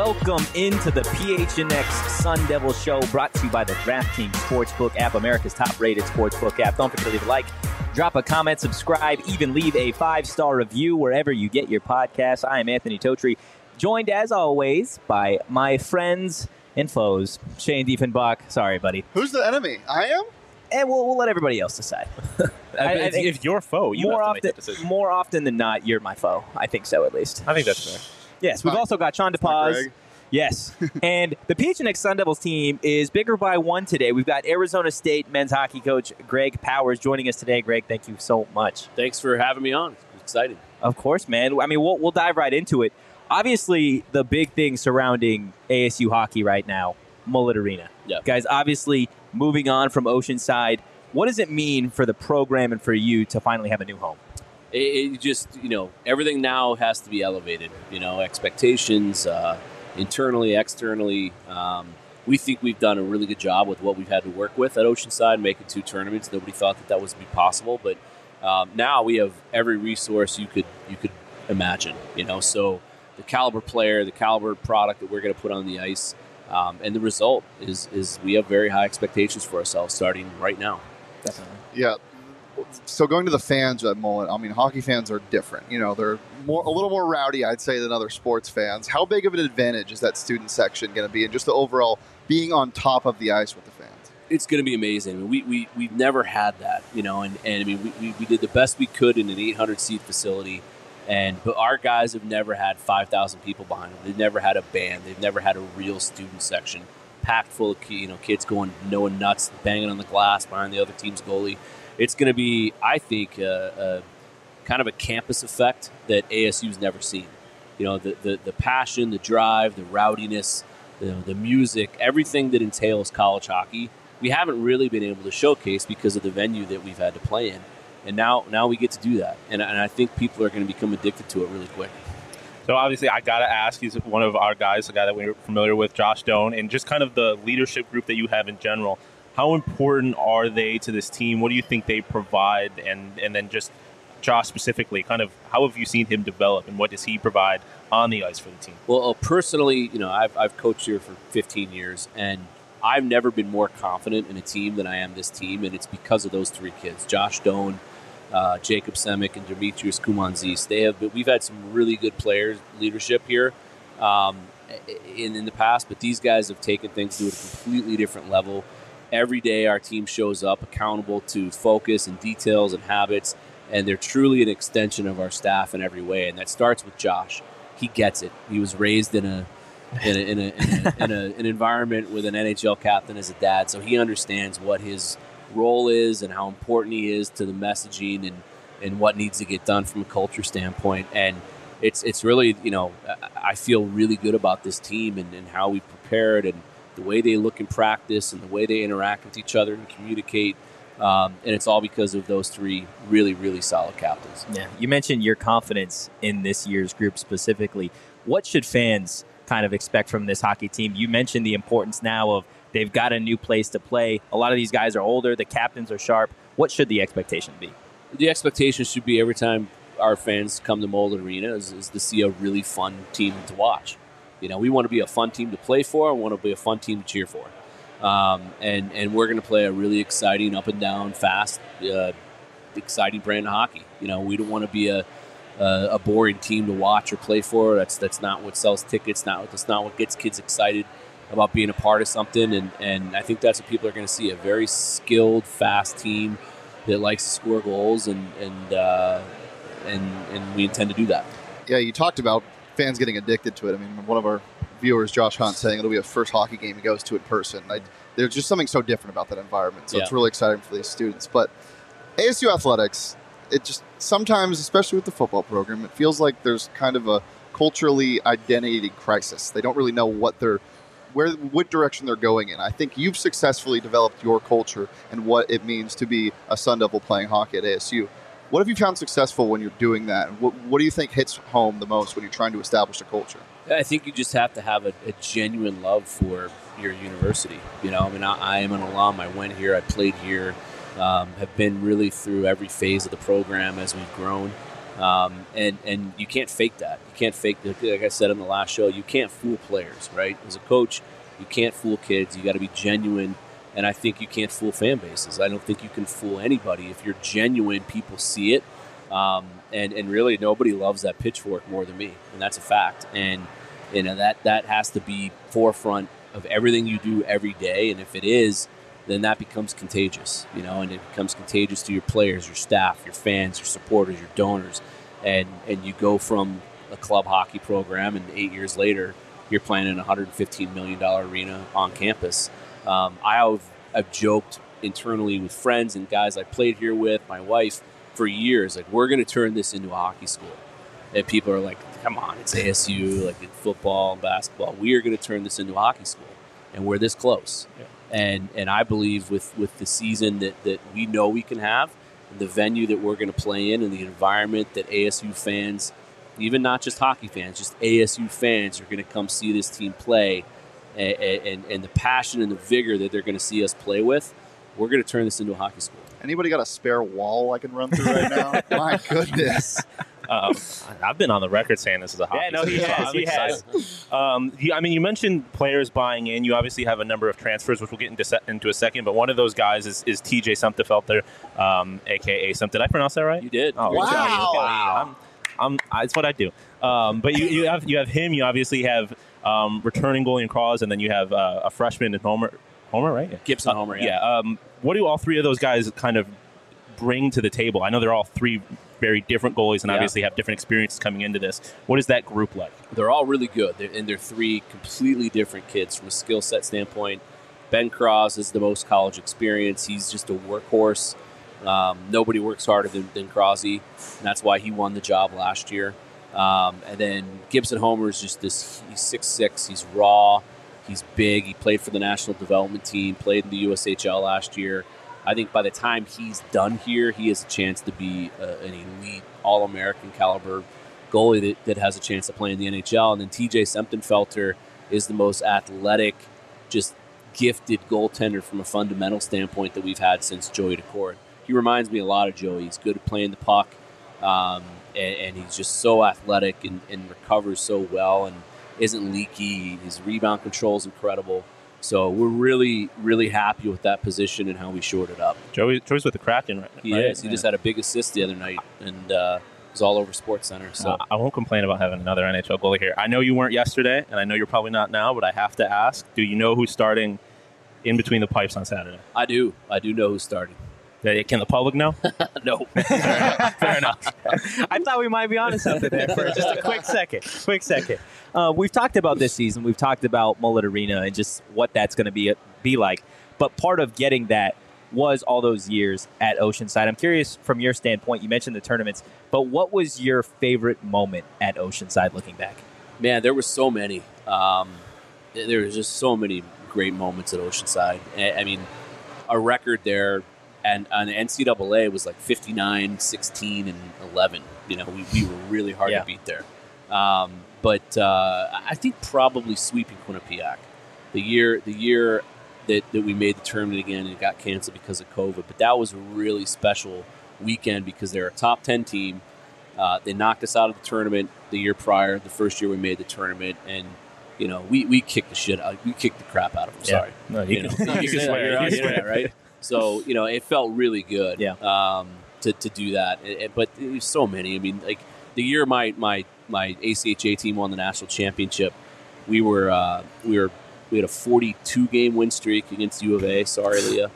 Welcome into the PHNX Sun Devil Show, brought to you by the DraftKings Sportsbook app, America's top-rated sportsbook app. Don't forget to leave a like, drop a comment, subscribe, even leave a 5-star review wherever you get your podcasts. I am Anthony Totri, joined as always by my friends and foes, Shane Diefenbach. Sorry, buddy. Who's the enemy? I am? And we'll let everybody else decide. I think if you're foe, you have to make that decision. More often than not, you're my foe. I think so, at least. I think that's fair. Yes, we've also got Sean DePaz. Yes. And the PHNX Sun Devils team is bigger by one today. We've got Arizona State men's hockey coach Greg Powers joining us today. Greg, thank you so much. Thanks for having me on. I'm excited. Of course, man. I mean, we'll dive right into it. Obviously, the big thing surrounding ASU hockey right now, Mullet Arena. Yeah. Guys, obviously moving on from Oceanside. What does it mean for the program and for you to finally have a new home? It just, everything now has to be elevated. Expectations, internally, externally. We think we've done a really good job with what we've had to work with at Oceanside, making 2 tournaments. Nobody thought that was to be possible, but now we have every resource you could imagine. So the caliber player, the caliber product that we're going to put on the ice, and the result is we have very high expectations for ourselves starting right now. Definitely. Yeah. So going to the fans at Mullet, I mean, hockey fans are different. They're a little more rowdy, I'd say, than other sports fans. How big of an advantage is that student section going to be, and just the overall being on top of the ice with the fans? It's going to be amazing. We've never had that, and I mean, we did the best we could in an 800-seat facility, but our guys have never had 5,000 people behind them. They've never had a band. They've never had a real student section packed full of kids going nuts, banging on the glass behind the other team's goalie. It's going to be, I think, kind of a campus effect that ASU's never seen. The passion, the drive, the rowdiness, the music, everything that entails college hockey, we haven't really been able to showcase because of the venue that we've had to play in. And now we get to do that. And I think people are going to become addicted to it really quick. So obviously, I got to ask, he's one of our guys, the guy that we're familiar with, Josh Doan, and just kind of the leadership group that you have in general. How important are they to this team? What do you think they provide? And then just Josh specifically, kind of how have you seen him develop, and what does he provide on the ice for the team? Well, personally, I've coached here for 15 years, and I've never been more confident in a team than I am this team, and it's because of those 3 kids, Josh Doan, Jacob Semick, and Demetrius Kumanzis. We've had some really good players, leadership here in the past, but these guys have taken things to a completely different level. Every day our team shows up accountable to focus and details and habits, and they're truly an extension of our staff in every way. And that starts with Josh. He gets it. He was raised in an environment with an NHL captain as a dad, so he understands what his role is and how important he is to the messaging and what needs to get done from a culture standpoint. And it's really, I feel really good about this team and how we prepared and the way they look in practice and the way they interact with each other and communicate. And it's all because of those 3 really, really solid captains. Yeah. You mentioned your confidence in this year's group specifically. What should fans kind of expect from this hockey team? You mentioned the importance now of they've got a new place to play. A lot of these guys are older. The captains are sharp. What should the expectation be? The expectation should be every time our fans come to Mullet Arena is to see a really fun team to watch. We want to be a fun team to play for. We want to be a fun team to cheer for. And we're going to play a really exciting, up and down, fast, exciting brand of hockey. We don't want to be a boring team to watch or play for. That's not what sells tickets. That's not what gets kids excited about being a part of something. And I think that's what people are going to see, a very skilled, fast team that likes to score goals, and we intend to do that. Yeah, you talked about fans getting addicted to it. I mean, one of our viewers, Josh Hunt, saying it'll be a first hockey game he goes to in person. There's just something so different about that environment. So It's really exciting for these students. But ASU athletics, it just sometimes, especially with the football program, it feels like there's kind of a culturally identity crisis. They don't really know what direction they're going in. I think you've successfully developed your culture and what it means to be a Sun Devil playing hockey at ASU. What have you found successful when you're doing that? What do you think hits home the most when you're trying to establish a culture? I think you just have to have a genuine love for your university. I am an alum. I went here. I played here. Have been really through every phase of the program as we've grown. And you can't fake that. You can't fake that. Like I said on the last show, you can't fool players, right? As a coach, you can't fool kids. You got to be genuine. And I think you can't fool fan bases. I don't think you can fool anybody. If you're genuine, people see it. And really, nobody loves that pitchfork more than me, and that's a fact. And that has to be forefront of everything you do every day. And if it is, then that becomes contagious, and it becomes contagious to your players, your staff, your fans, your supporters, your donors, and you go from a club hockey program, and 8 years later, you're playing in a $115 million arena on campus. I've joked internally with friends and guys I played here with, my wife, for years, like, we're going to turn this into a hockey school. And people are like, come on, it's ASU, like in football and basketball. We are going to turn this into a hockey school, and we're this close. Yeah. And I believe with the season that we know we can have, and the venue that we're going to play in, and the environment that ASU fans, even not just hockey fans, just ASU fans are going to come see this team play, and the passion and the vigor that they're going to see us play with, we're going to turn this into a hockey school. Anybody got a spare wall I can run through right now? My goodness. I've been on the record saying this is a hockey. Yeah, no, he has. He has. I mean, you mentioned players buying in. You obviously have a number of transfers, which we'll get into a second. But one of those guys is TJ Sumpterfelter, a.k.a. Sump. Did I pronounce that right? You did. Oh, wow. It's what I do. But you have him. You obviously have returning goalie in Crawls, and then you have a freshman in Homer, right? Yeah. Gibson Homer, yeah. What do all three of those guys kind of bring to the table? I know they're all three very different goalies and obviously have different experiences coming into this. What is that group like? They're all really good, and they're three completely different kids from a skill set standpoint. Ben Cross is the most college experience. He's just a workhorse. Nobody works harder than Crosby, and that's why he won the job last year. And then Gibson Homer is just this. He's 6'6". He's raw. He's big. He played for the national development team, played in the USHL last year. I think by the time he's done here, he has a chance to be an elite All-American caliber goalie that has a chance to play in the NHL. And then TJ Sumpterfelter is the most athletic, just gifted goaltender from a fundamental standpoint that we've had since Joey Daccord. He reminds me a lot of Joey. He's good at playing the puck, and he's just so athletic and recovers so well and isn't leaky. His rebound control is incredible. So we're really, really happy with that position and how we shored it up. Joey's with the Kraken right now. He is. He just had a big assist the other night, and it was all over SportsCenter. So I won't complain about having another NHL goalie here. I know you weren't yesterday, and I know you're probably not now, but I have to ask, do you know who's starting in between the pipes on Saturday? I do. I do know who's starting. Can the public know? No. Fair enough. I thought we might be onto something there for just a quick second. We've talked about this season. We've talked about Mullet Arena and just what that's going to be like. But part of getting that was all those years at Oceanside. I'm curious from your standpoint, you mentioned the tournaments, but what was your favorite moment at Oceanside looking back? Man, there were so many. There was just so many great moments at Oceanside. I mean, our record there and on the NCAA was like 59, 16, and 11. We were really hard to beat there. But I think probably sweeping Quinnipiac. The year that we made the tournament again, and it got canceled because of COVID. But that was a really special weekend because they're a top 10 team. They knocked us out of the tournament the year prior, the first year we made the tournament, and we kicked the shit out. We kicked the crap out of them. Yeah. Sorry. No, you can swear. You can swear, right? So, it felt really good to do that. But there's so many. I mean, like the year my ACHA team won the national championship, we had a 42-game win streak against U of A. Sorry, Leah.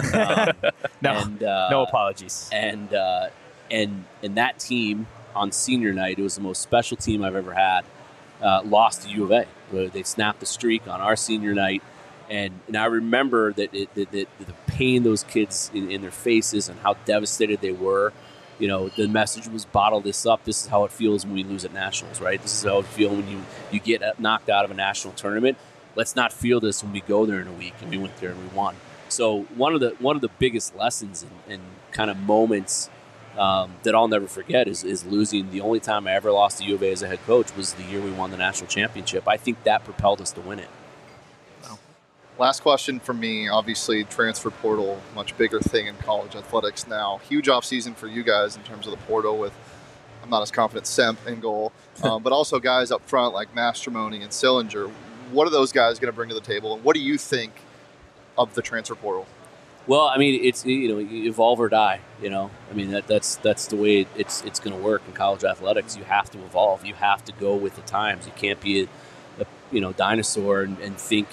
No apologies. And that team on senior night, it was the most special team I've ever had, lost to U of A. They snapped the streak on our senior night. And I remember that the pain those kids in their faces and how devastated they were. The message was bottle this up. This is how it feels when we lose at nationals, right? This is how it feels when you get knocked out of a national tournament. Let's not feel this when we go there in a week. And we went there and we won. So one of the biggest lessons and kind of moments that I'll never forget is losing. The only time I ever lost to U of A as a head coach was the year we won the national championship. I think that propelled us to win it. Last question from me. Obviously, transfer portal, much bigger thing in college athletics now. Huge offseason for you guys in terms of the portal with I'm not as confident Semp in goal, but also guys up front like Mastromoni and Sillinger. What are those guys going to bring to the table, and what do you think of the transfer portal? Well, I mean, it's you evolve or die. I mean that's the way it's going to work in college athletics. You have to evolve. You have to go with the times. You can't be a dinosaur and think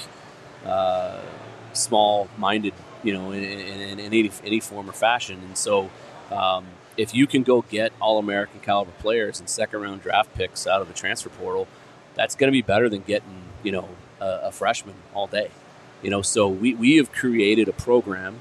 small-minded. In any form or fashion. And so, if you can go get All-American caliber players and second-round draft picks out of the transfer portal, that's going to be better than getting a freshman all day. So we have created a program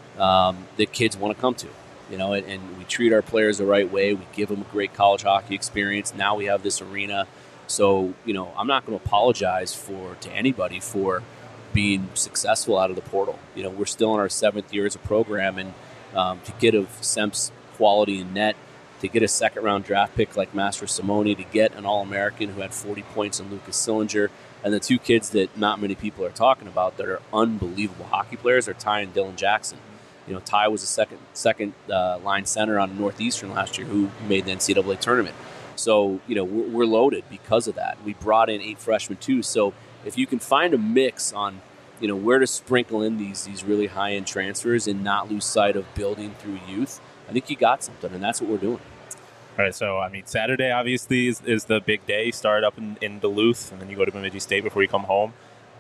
that kids want to come to, and we treat our players the right way. We give them a great college hockey experience. Now we have this arena. So, I'm not going to apologize to anybody for being successful out of the portal. We're still in our 7th year as a program, and to get of Semp's quality in net, to get a second-round draft pick like Mastromoni, to get an All-American who had 40 points in Lucas Sillinger, and the 2 kids that not many people are talking about that are unbelievable hockey players are Ty and Dylan Jackson. Ty was a second line center on Northeastern last year who made the NCAA tournament. So, we're loaded because of that. We brought in 8 freshmen too. So if you can find a mix on, where to sprinkle in these really high-end transfers and not lose sight of building through youth, I think you got something, and that's what we're doing. All right, so, Saturday, obviously, is the big day. You start up in Duluth, and then you go to Bemidji State before you come home.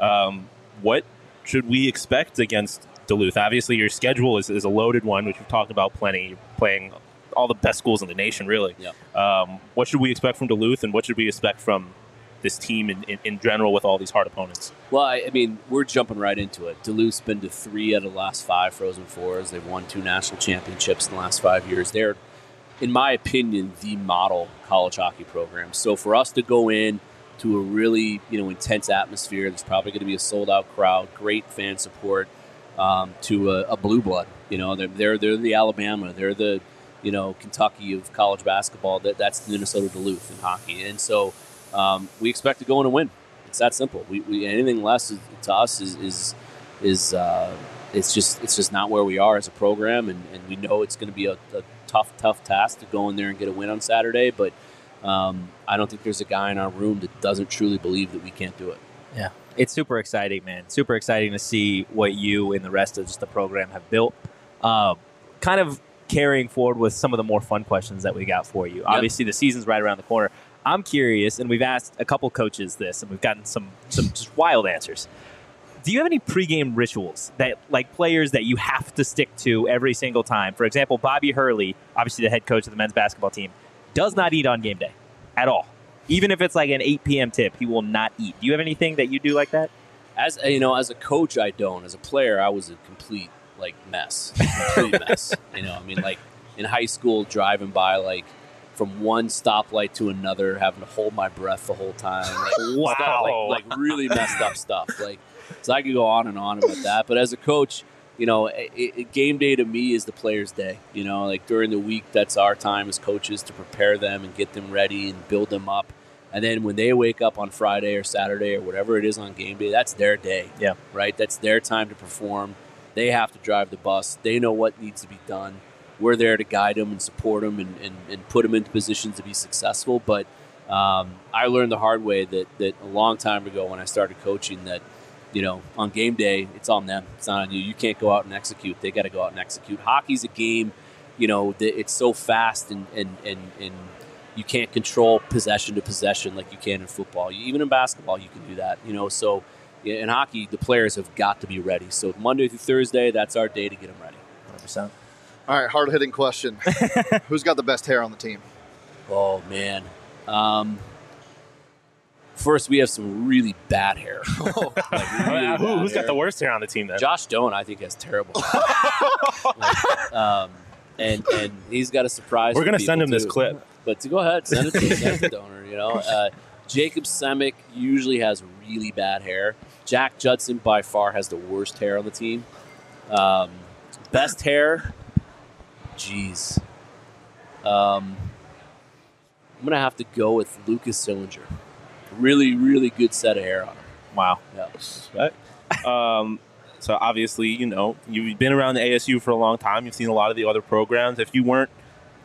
What should we expect against Duluth? Obviously, your schedule is a loaded one, which we've talked about plenty. You're playing all the best schools in the nation, really. Yeah. What should we expect from Duluth, and what should we expect from this team in general with all these hard opponents? Well, we're jumping right into it. Duluth's been to 3 out of the last 5 Frozen Fours. They've won 2 national championships in the last 5 years. They're, in my opinion, the model college hockey program. So for us to go in to a really intense atmosphere, there's probably going to be a sold-out crowd, great fan support, to a blue blood. They're the Alabama. They're the Kentucky of college basketball. That's Minnesota Duluth in hockey, and so. We expect to go in and win. It's that simple. We anything less to us is it's just not where we are as a program, and we know it's going to be a tough task to go in there and get a win on Saturday. But I don't think there's a guy in our room that doesn't truly believe that we can't do it. Yeah, it's super exciting, man. Super exciting to see what you and the rest of just the program have built. Kind of carrying forward with some of the more fun questions that we got for you. Yep. Obviously, the season's right around the corner. I'm curious, and we've asked a couple coaches this, and we've gotten some just wild answers. Do you have any pregame rituals that, like players that you have to stick to every single time? For example, Bobby Hurley, obviously the head coach of the men's basketball team, does not eat on game day at all. Even if it's like an 8 p.m. tip, he will not eat. Do you have anything that you do like that? As a coach, I don't. As a player, I was a complete mess. Complete mess. In high school, driving by from one stoplight to another, having to hold my breath the whole time. Wow. Really messed up stuff. So I could go on and on about that. But as a coach, game day to me is the player's day. During the week, that's our time as coaches to prepare them and get them ready and build them up. And then when they wake up on Friday or Saturday or whatever it is on game day, that's their day. Yeah. Right? That's their time to perform. They have to drive the bus. They know what needs to be done. We're there to guide them and support them and put them into positions to be successful. But I learned the hard way that a long time ago when I started coaching that, on game day, it's on them. It's not on you. You can't go out and execute. They got to go out and execute. Hockey's a game, that it's so fast and you can't control possession to possession like you can in football. Even in basketball, you can do that. So in hockey, the players have got to be ready. So Monday through Thursday, that's our day to get them ready. 100%. All right, hard-hitting question. Who's got the best hair on the team? Oh, man. First, we have some really bad hair. Who's got the worst hair on the team then? Josh Doan, I think, has terrible hair. And he's got a surprise. We're going to send him this clip. But go ahead, send it to Donor. Jacob Semick usually has really bad hair. Jack Judson by far has the worst hair on the team. Best hair, geez. I'm going to have to go with Lucas Sillinger. Really, really good set of hair on him. Wow. Yeah. Right. So obviously, you've been around the ASU for a long time. You've seen a lot of the other programs. If you weren't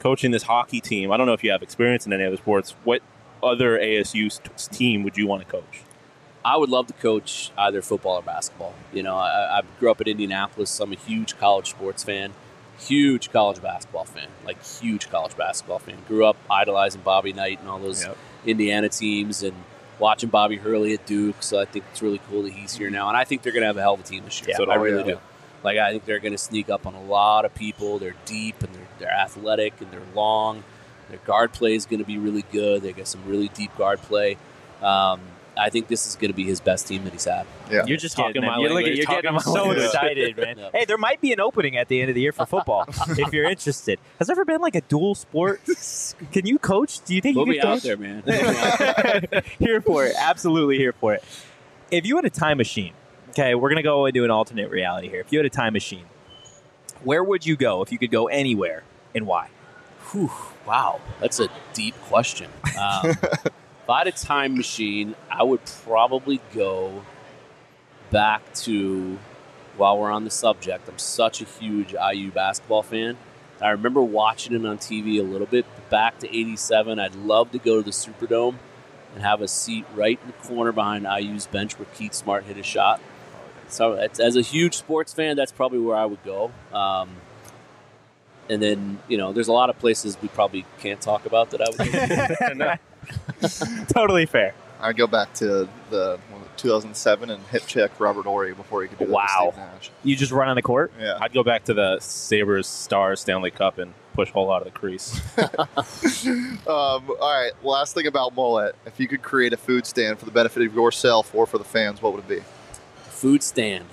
coaching this hockey team, I don't know if you have experience in any other sports. What other ASU team would you want to coach? I would love to coach either football or basketball. You know, I grew up in Indianapolis. So I'm a huge college sports fan, huge college basketball fan, huge college basketball fan. Grew up idolizing Bobby Knight and all those Indiana teams and watching Bobby Hurley at Duke. So I think it's really cool that he's here now. And I think they're going to have a hell of a team this year. Yeah, so I really do. I think they're going to sneak up on a lot of people. They're deep and they're athletic and they're long. Their guard play is going to be really good. They got some really deep guard play. I think this is going to be his best team that he's had. Yeah. You're just talking my language. You're getting so excited, man. Yep. Hey, there might be an opening at the end of the year for football if you're interested. Has there ever been a dual sport? Can you coach? Do you think you could coach? Out there, man. Here for it. Absolutely here for it. If you had a time machine, okay, we're going to go into an alternate reality here. If you had a time machine, where would you go if you could go anywhere and why? Whew, wow. That's a deep question. If I had a time machine, I would probably go back to, while we're on the subject, I'm such a huge IU basketball fan. I remember watching it on TV a little bit. But back to 87, I'd love to go to the Superdome and have a seat right in the corner behind IU's bench where Keith Smart hit a shot. So as a huge sports fan, that's probably where I would go. And then, there's a lot of places we probably can't talk about that I would go. Totally fair. I'd go back to the 2007 and hip check Robert Horry before he could do that with Steve Nash. You just run on the court? Yeah. I'd go back to the Sabres Stars Stanley Cup and push Hull out of the crease. All right, last thing about Mullet. If you could create a food stand for the benefit of yourself or for the fans, what would it be? Food stand.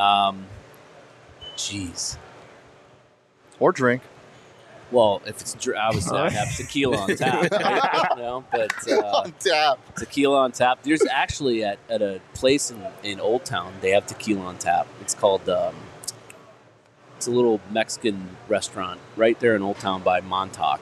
Jeez. Or drink. Well, if it's obviously I have tequila on tap, right? On tap. Tequila on tap. There's actually at a place in Old Town they have tequila on tap. It's called it's a little Mexican restaurant right there in Old Town by Montauk.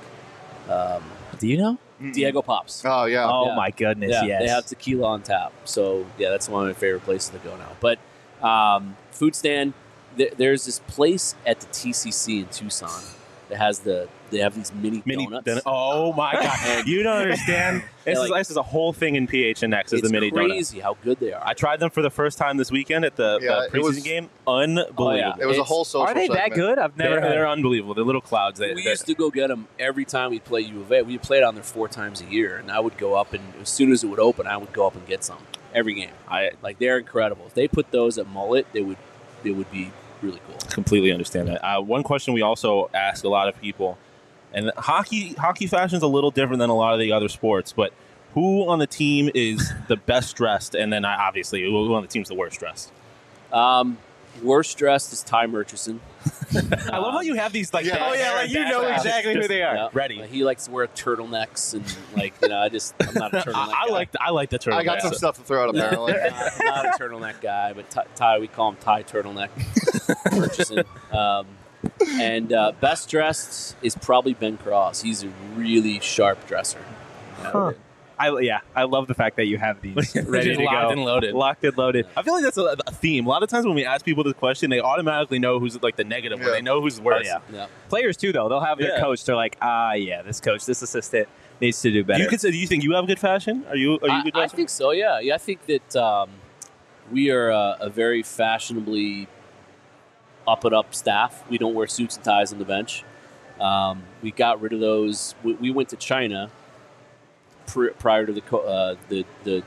Do you know? Diego Pops. Oh yeah. Oh my goodness. Yeah, yes. They have tequila on tap. So yeah, that's one of my favorite places to go now. But food stand. There's this place at the TCC in Tucson. They have these mini donuts. Oh my god! You don't understand. This is a whole thing in PHNX. Is the mini donuts? It's crazy how good they are. I tried them for the first time this weekend at the preseason game. Unbelievable. Oh, yeah. It was a whole social. Are they segment. that good? I've never. They're unbelievable. They're little clouds. We used to go get them every time we play U of A. We played on there 4 times a year, and I would go up and as soon as it would open, I would go up and get some every game. They're incredible. If they put those at Mullet, they would be really cool. Completely understand that. One question we also ask a lot of people. And hockey fashion is a little different than a lot of the other sports, but who on the team is the best dressed? And then obviously, who on the team is the worst dressed? Worst dressed is Ty Murchison. I love how you have these you know exactly who they are. Yeah. Ready. He likes to wear turtlenecks and I'm not a turtleneck guy. I like the turtleneck. I got some stuff to throw out apparently. Not a turtleneck guy, but Ty, we call him Ty Turtleneck Murchison. And best dressed is probably Ben Cross. He's a really sharp dresser. Huh. I love the fact that you have these ready to locked go. And loaded. Locked and loaded. I feel like that's a theme. A lot of times when we ask people this question, they automatically know who's the negative one. They know who's worse. Yeah. Players too, though. They'll have their coach. They're like, this coach, this assistant needs to do better. Do you think you have good fashion? Are you good? I think so. Yeah. I think that we are a very fashionably up staff. We don't wear suits and ties on the bench. We got rid of those. We went to China prior to the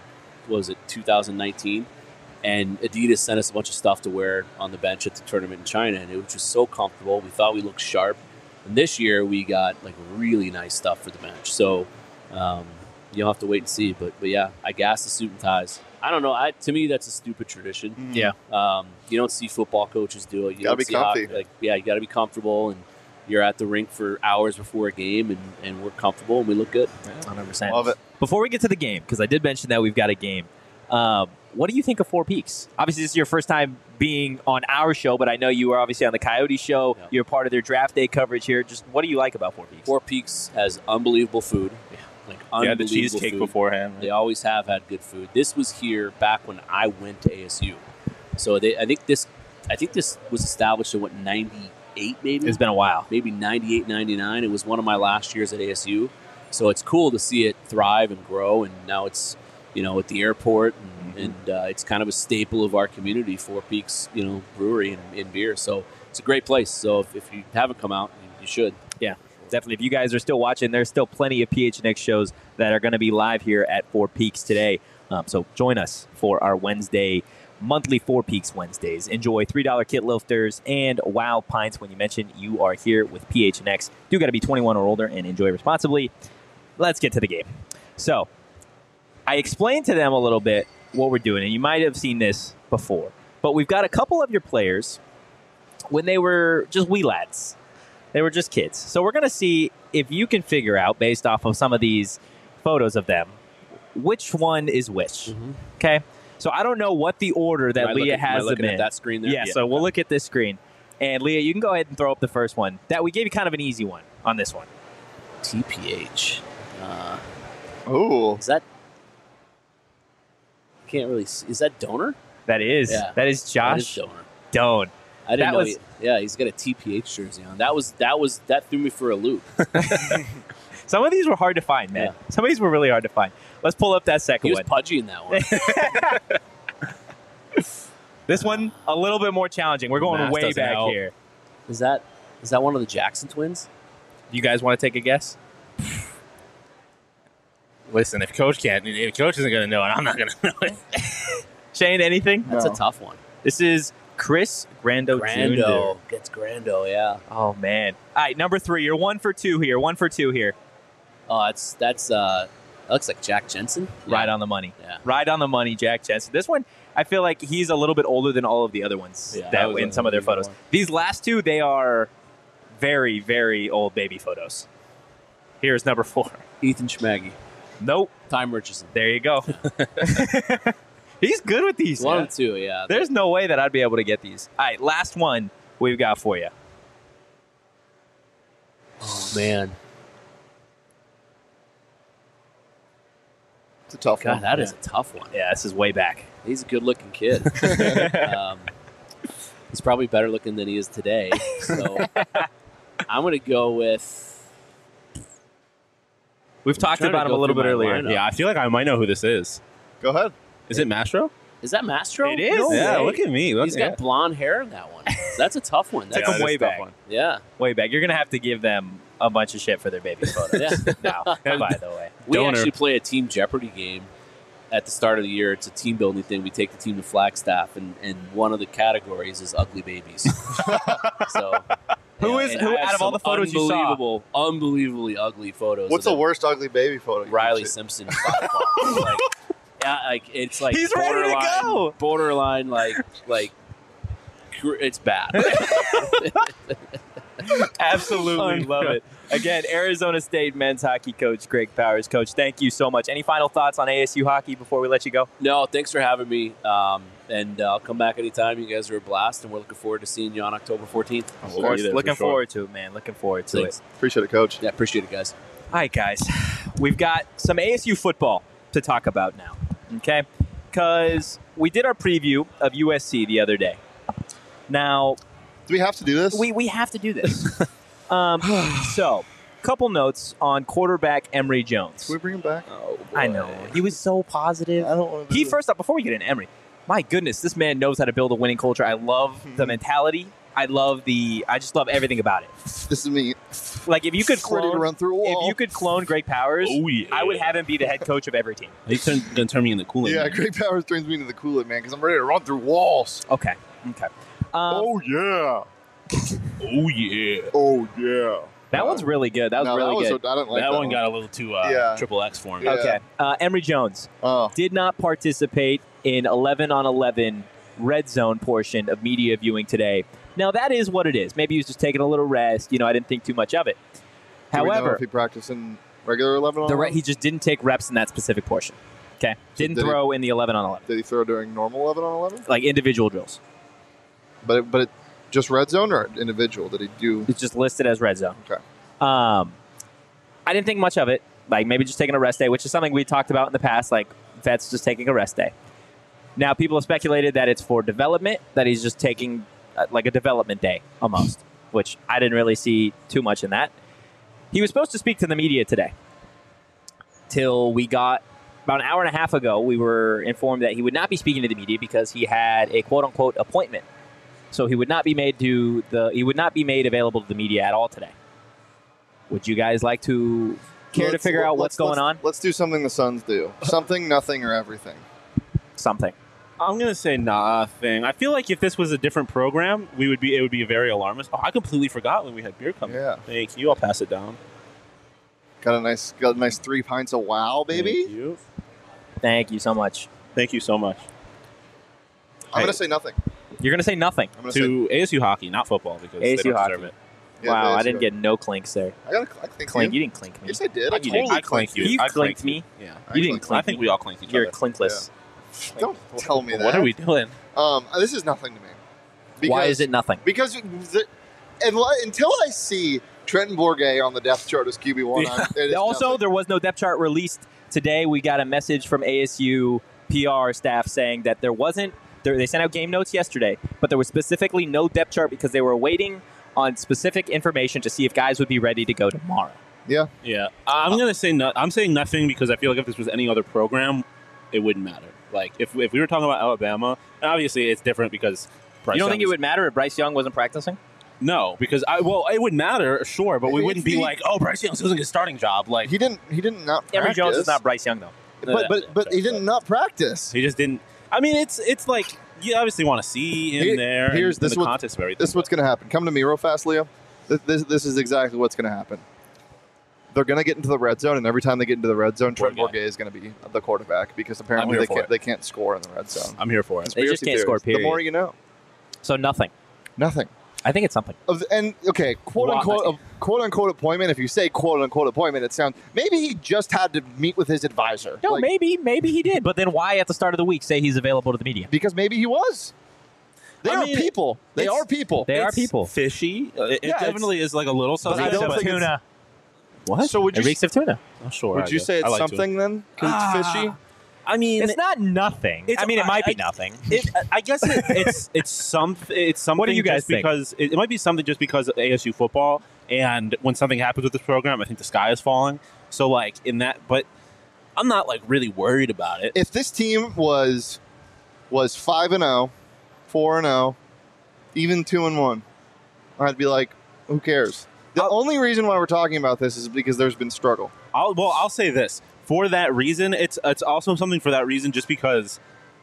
2019, and Adidas sent us a bunch of stuff to wear on the bench at the tournament in China, and it was just so comfortable. We thought we looked sharp, and this year we got really nice stuff for the bench. So you'll have to wait and see, but yeah, I gas the suit and ties. I don't know. To me, that's a stupid tradition. Yeah. You don't see football coaches do it. You gotta be comfy. You got to be comfortable, and you're at the rink for hours before a game, and we're comfortable and we look good. 100%. Love it. Before we get to the game, because I did mention that we've got a game, what do you think of Four Peaks? Obviously, this is your first time being on our show, but I know you were obviously on the Coyote show. Yeah. You're part of their draft day coverage here. Just what do you like about Four Peaks? Four Peaks has unbelievable food. The cheesecake beforehand. Right? They always have had good food. This was here back when I went to ASU. So I think this was established in 98 98, maybe. It's been a while. Maybe 98, 99. It was one of my last years at ASU. So it's cool to see it thrive and grow. And now it's, at the airport. And it's kind of a staple of our community, Four Peaks, brewery and beer. So it's a great place. So if you haven't come out, you should. Yeah, definitely. If you guys are still watching, there's still plenty of PHNX shows that are going to be live here at Four Peaks today. So join us for our monthly Four Peaks Wednesdays. Enjoy $3 kit lifters and wow pints when you mention you are here with PHNX. Do got to be 21 or older and enjoy responsibly. Let's get to the game. So I explained to them a little bit what we're doing, and you might have seen this before, but we've got a couple of your players when they were just wee lads. They were just kids. So we're going to see if you can figure out, based off of some of these photos of them, which one is which. Okay? So I don't know what the order that Leah has them in. At that screen there? Yeah, so we'll look at this screen. And Leah, you can go ahead and throw up the first one. That we gave you kind of an easy one on this one. TPH. Oh. Is that... Can't really see. Is that Donor? That is. Yeah. That is Josh Doan. I didn't know. He's got a TPH jersey on. That threw me for a loop. Some of these were hard to find, man. Yeah. Some of these were really hard to find. Let's pull up that second He one. was pudgy in that one. This one, a little bit more challenging. We're going way back here. Is that one of the Jackson twins? You guys want to take a guess? Listen, if Coach isn't going to know it, I'm not going to know it. Shane, anything? That's a tough one. This is Chris Grando Jr. Gets Grando, yeah. Oh, man. All right, number 3. You're 1 for 2 here. 1 for 2 here. Oh, that looks like Jack Jensen. Yeah. Right on the money. Yeah. Right on the money, Jack Jensen. This one, I feel like he's a little bit older than all of the other ones that in some of their photos. These last two, they are very, very old baby photos. Here's number 4. Ethan Schmaggy. Nope. Time Richardson. There you go. He's good with these. 1 and 2, yeah. There's no way that I'd be able to get these. All right, last one we've got for you. Oh, man. It's a tough God, one. that is a tough one. Yeah, this is way back. He's a good-looking kid. He's probably better looking than he is today. So I'm going to go with... We've talked about him a little bit earlier. Yeah, I feel like I might know who this is. Go ahead. Is it Mastro? Is that Mastro? It is. No Yeah, way. look at me. He's got blond hair in that one. That's a tough one. Took That's, him way back. yeah. Way back. You're going to have to give them a bunch of shit for their baby photos. Now, by the way. We Donor. actually play a Team Jeopardy game at the start of the year. It's a team building thing. We take the team to Flagstaff, and one of the categories is ugly babies. So... Who out of all the photos you saw? Unbelievably ugly photos. What's the worst ugly baby photo? Riley Simpson. It's like He's ready to go. Borderline, it's bad. Absolutely love it. Again, Arizona State men's hockey coach Greg Powers. Coach, thank you so much. Any final thoughts on ASU hockey before we let you go? No, thanks for having me. And I'll come back anytime. You guys are a blast, and we're looking forward to seeing you on October 14th. Of course. Looking forward to it, man. Looking forward to it. Appreciate it, Coach. Yeah, appreciate it, guys. All right, guys. We've got some ASU football to talk about now, okay? Because we did our preview of USC the other day. Now, do we have to do this? We have to do this. So, couple notes on quarterback Emory Jones. Can we bring him back? Oh, boy. I know. He was so positive. I don't want to. First up, before we get into Emory, my goodness, this man knows how to build a winning culture. I love the mentality. I just love everything about it. This is me. Like if you could Ready to clone, run through a wall. if you could clone Greg Powers, I would have him be the head coach of every team. He's going to turn me into Kool-Aid. Yeah, Greg Powers turns me into the Kool-Aid man because I'm ready to run through walls. Okay. Oh yeah. Oh, yeah. Oh yeah. That one's really good. That was really good. I don't like that one got a little too triple X for me. Yeah. Okay. Emory Jones Oh. did not participate in 11-on-11 red zone portion of media viewing today. Now, that is what it is. Maybe he was just taking a little rest. I didn't think too much of it. Do we know However, if he practiced in regular 11-on-11? he just didn't take reps in that specific portion. Okay. Didn't did throw in the 11-on-11. Did he throw during normal 11-on-11? Like individual drills. But it just red zone or individual? Did he do? It's just listed as red zone. Okay. I didn't think much of it. Like maybe just taking a rest day, which is something we talked about in the past, like vets just taking a rest day. Now, people have speculated that it's for development, that he's just taking like a development day almost. which I didn't really see too much in that. He was supposed to speak to the media today. Till we got about an hour and a half ago, we were informed that he would not be speaking to the media because he had a quote-unquote appointment. So he would not be made available to the media at all today. Would you guys like to care to figure out what's going on? Let's do something the Suns do. Something, nothing, or everything. Something. I'm gonna say nothing. I feel like if this was a different program, it would be very alarmist. Oh, I completely forgot when we had beer coming. Yeah. Thank you. I'll pass it down. Got a nice 3 pints of wow, baby. Thank you. Thank you so much. Thank you so much. I'm gonna say nothing. You're going to say nothing. I'm gonna To ASU hockey, not football, because they ASU don't hockey. deserve it. Yeah, Wow, ASU I didn't get no clinks there. I think Clink. You didn't clink me. Yes, I did. I You didn't. totally I clinked you. You I clinked me. Yeah. You didn't clinked. clink I think we all clinked each You're other. clinkless. Don't tell me that. What are we doing? This is nothing to me. Why is it nothing? Because until I see Trenton Bourget on the depth chart as QB1, it is Also, nothing. there was no depth chart released today. We got a message from ASU PR staff saying that there wasn't. They sent out game notes yesterday, but there was specifically no depth chart because they were waiting on specific information to see if guys would be ready to go tomorrow. Yeah. Yeah. I'm gonna say no. I'm saying nothing because I feel like if this was any other program, it wouldn't matter. Like if we were talking about Alabama, and obviously it's different because Bryce You don't Young think it would matter if Bryce Young wasn't practicing? No, because it would matter, sure, but we wouldn't be like, oh, Bryce Young's losing his starting job. Like He didn't not practice. Emory Jones is not Bryce Young, though. But he didn't not practice. He just didn't. I mean, it's like you obviously want to see him there. Here's in this the what- context of everything. This is what's going to happen. Come to me real fast, Leo. This is exactly what's going to happen. They're going to get into the red zone, and every time they get into the red zone, Trent Bourget is going to be the quarterback because apparently they can't score in the red zone. I'm here for it. They just can't score, period. The more you know. So nothing. Nothing. I think it's something. And okay, quote unquote appointment. If you say quote unquote appointment, it sounds maybe he just had to meet with his advisor. No, maybe he did. But then why at the start of the week say he's available to the media? Because maybe he was. They are people. They are people. They are people. Fishy. It definitely is like a little But I suspect. don't think tuna. What? So would It you reeks of tuna. Oh, sure. would you say it's something then? Because it's fishy. I mean, It's not nothing. It's- I mean, it might be I- nothing. I guess it's something. What do you guys just think? Because it might be something just because of ASU football, and when something happens with this program, I think the sky is falling. So like in that, but I'm not like really worried about it. If this team was 5-0, 4-0, even 2-1, I'd be like, who cares? The only reason why we're talking about this is because there's been struggle. I'll say this. For that reason, it's also something for that reason just because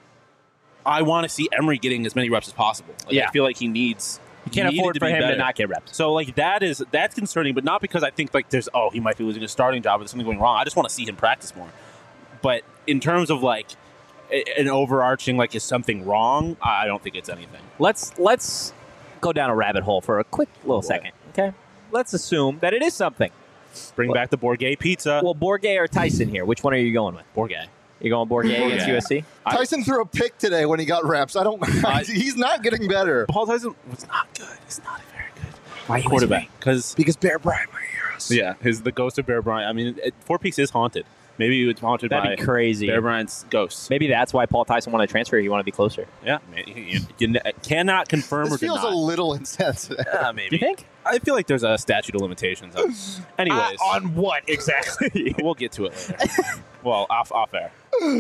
I want to see Emory getting as many reps as possible. Like, Yeah. I feel like he needs. You can't afford for him to not get reps. So like that's concerning, but not because I think like he might be losing his starting job or there's something going wrong. I just want to see him practice more. But in terms of like an overarching like is something wrong, I don't think it's anything. Let's go down a rabbit hole for a quick little second. Okay. Let's assume that it is something. Bring back the Bourget pizza. Well, Bourget or Tyson here? Which one are you going with? Bourget. You're going Bourget against USC? Tyson threw a pick today when he got reps. He's not getting better. Paul Tyson was not good. He's not a very good Why are you quarterback because Bear Bryant might hear us. yeah, the ghost of Bear Bryant. I mean, Four Peaks is haunted. Maybe it's haunted by That'd be crazy. Bear Bryant's ghost. Maybe that's why Paul Tyson wanted to transfer. He wanted to be closer. Yeah, you cannot confirm This or feels deny. a little insensitive. Maybe. Do you think? I feel like there's a statute of limitations. Anyways, On what exactly? we'll get to it later. Well, off air.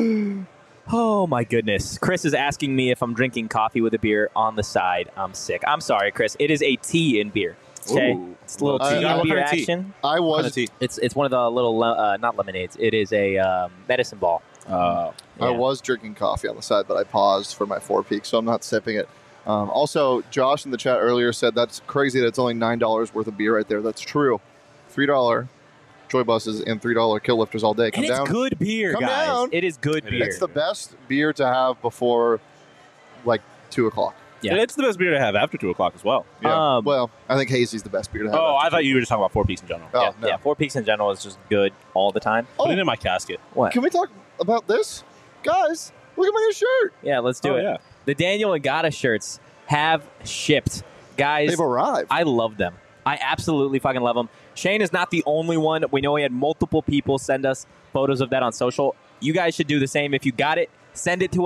Oh my goodness. Chris is asking me if I'm drinking coffee with a beer on the side. I'm sick. I'm sorry, Chris. It is a tea in beer. Okay? Ooh. It's a little What tea kind and of beer tea? action. I Kind was of tea. It's one of the little, not lemonades. It is a medicine ball. I Yeah. was drinking coffee on the side, but I paused for my 4 Peaks, so I'm not sipping it. Also, Josh in the chat earlier said that's crazy that it's only $9 worth of beer right there. That's true. $3 Joy Buses and $3 Kill Lifters all day. Come And it's down. good beer, Come guys. down. It is good It beer. It's the best beer to have before like 2 o'clock. Yeah. And it's the best beer to have after 2 o'clock as well. Yeah. Um, Well, I think Hazy's the best beer to have. Oh, after I thought you were just talking about Four Peaks in general. Oh, yeah, no. yeah, Four Peaks in general is just good all the time. Oh, Put it in my casket. What? can we talk about this? Guys, look at my new shirt. Yeah, let's do Oh, it. yeah. The Daniel Agata shirts have shipped. Guys, They've arrived. I love them. I absolutely fucking love them. Shane is not the only one. We know he had multiple people send us photos of that on social. You guys should do the same. If you got it, send it to us.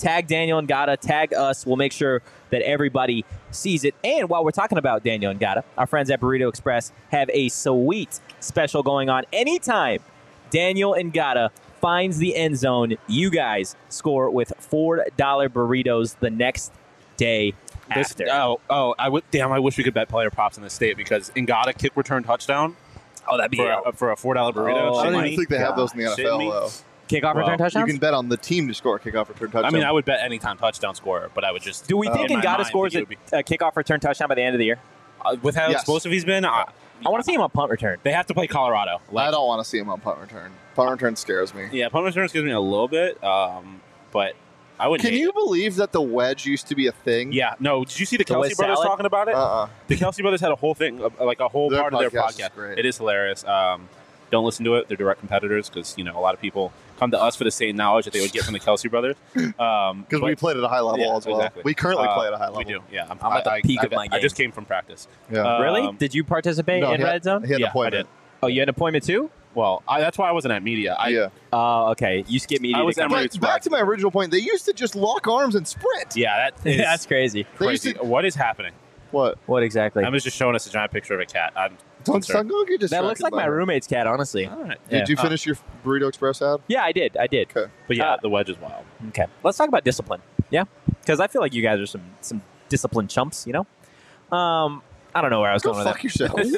Tag Daniel Ngata, tag us. We'll make sure that everybody sees it. And while we're talking about Daniel Ngata, our friends at Burrito Express have a sweet special going on. Anytime Daniel Ngata finds the end zone, you guys score with $4 burritos the next day after. I wish we could bet player props in this state because Ngata kick return touchdown. Oh, that'd be for a $4 burrito. I don't even think they have those in the NFL, though. Kickoff return touchdowns? You can bet on the team to score a kickoff return touchdown. I mean, I would bet anytime touchdown scorer, but I would just. Do we think Ngata scores a kickoff return touchdown by the end of the year? With how explosive he's been, I want to see him on punt return. They have to play Colorado. I don't want to see him on punt return. Punt return scares me. Yeah, punt return scares me a little bit, but I wouldn't. Can you believe that the wedge used to be a thing? Yeah. No. Did you see the Kelsey brothers talking about it? The Kelsey brothers had a whole thing, like a whole part of their podcast. It is hilarious. Don't listen to it. They're direct competitors because, a lot of people come to us for the same knowledge that they would get from the Kelsey brothers. Because we played at a high level as well. Exactly. We currently play at a high level. We do, yeah. I'm at the peak of my game. I just came from practice. Yeah. Really? Did you participate in Red Zone? He had an appointment. Oh, you had an appointment too? Well, that's why I wasn't at media. Oh, okay. You skipped media. I was back to my original point. They used to just lock arms and sprint. Yeah, that's crazy. Crazy. What is happening? What exactly? I was just showing us a giant picture of a cat. Don't get distracted. That looks like my roommate's cat, honestly. All right. Did you finish your Burrito Express ad? Yeah, I did. Okay. But yeah, the wedge is wild. Okay. Let's talk about discipline. Yeah? Because I feel like you guys are some disciplined chumps, I don't know where I was going with that. Fuck yourself. What?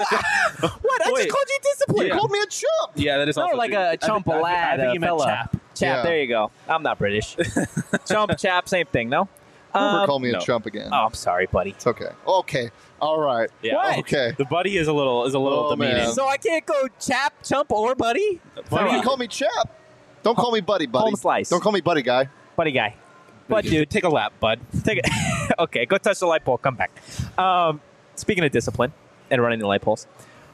I just called you disciplined. You called me a chump. Yeah, that is also like a chump, a lad, I think you meant fella. chap. Chap, there you go. I'm not British. Chump, chap, same thing, no? Never call me a chump again. Oh, I'm sorry, buddy. It's okay. Okay. All right. Yeah. What? Okay. The buddy is a little demeaning. man. So I can't go chap, chump, or buddy? Why do you call me chap? Don't call me buddy. Home slice. Don't call me buddy guy. Buddy guy. But dude, take a lap, bud. take it. Okay, go touch the light pole. Come back. Speaking of discipline and running the light poles,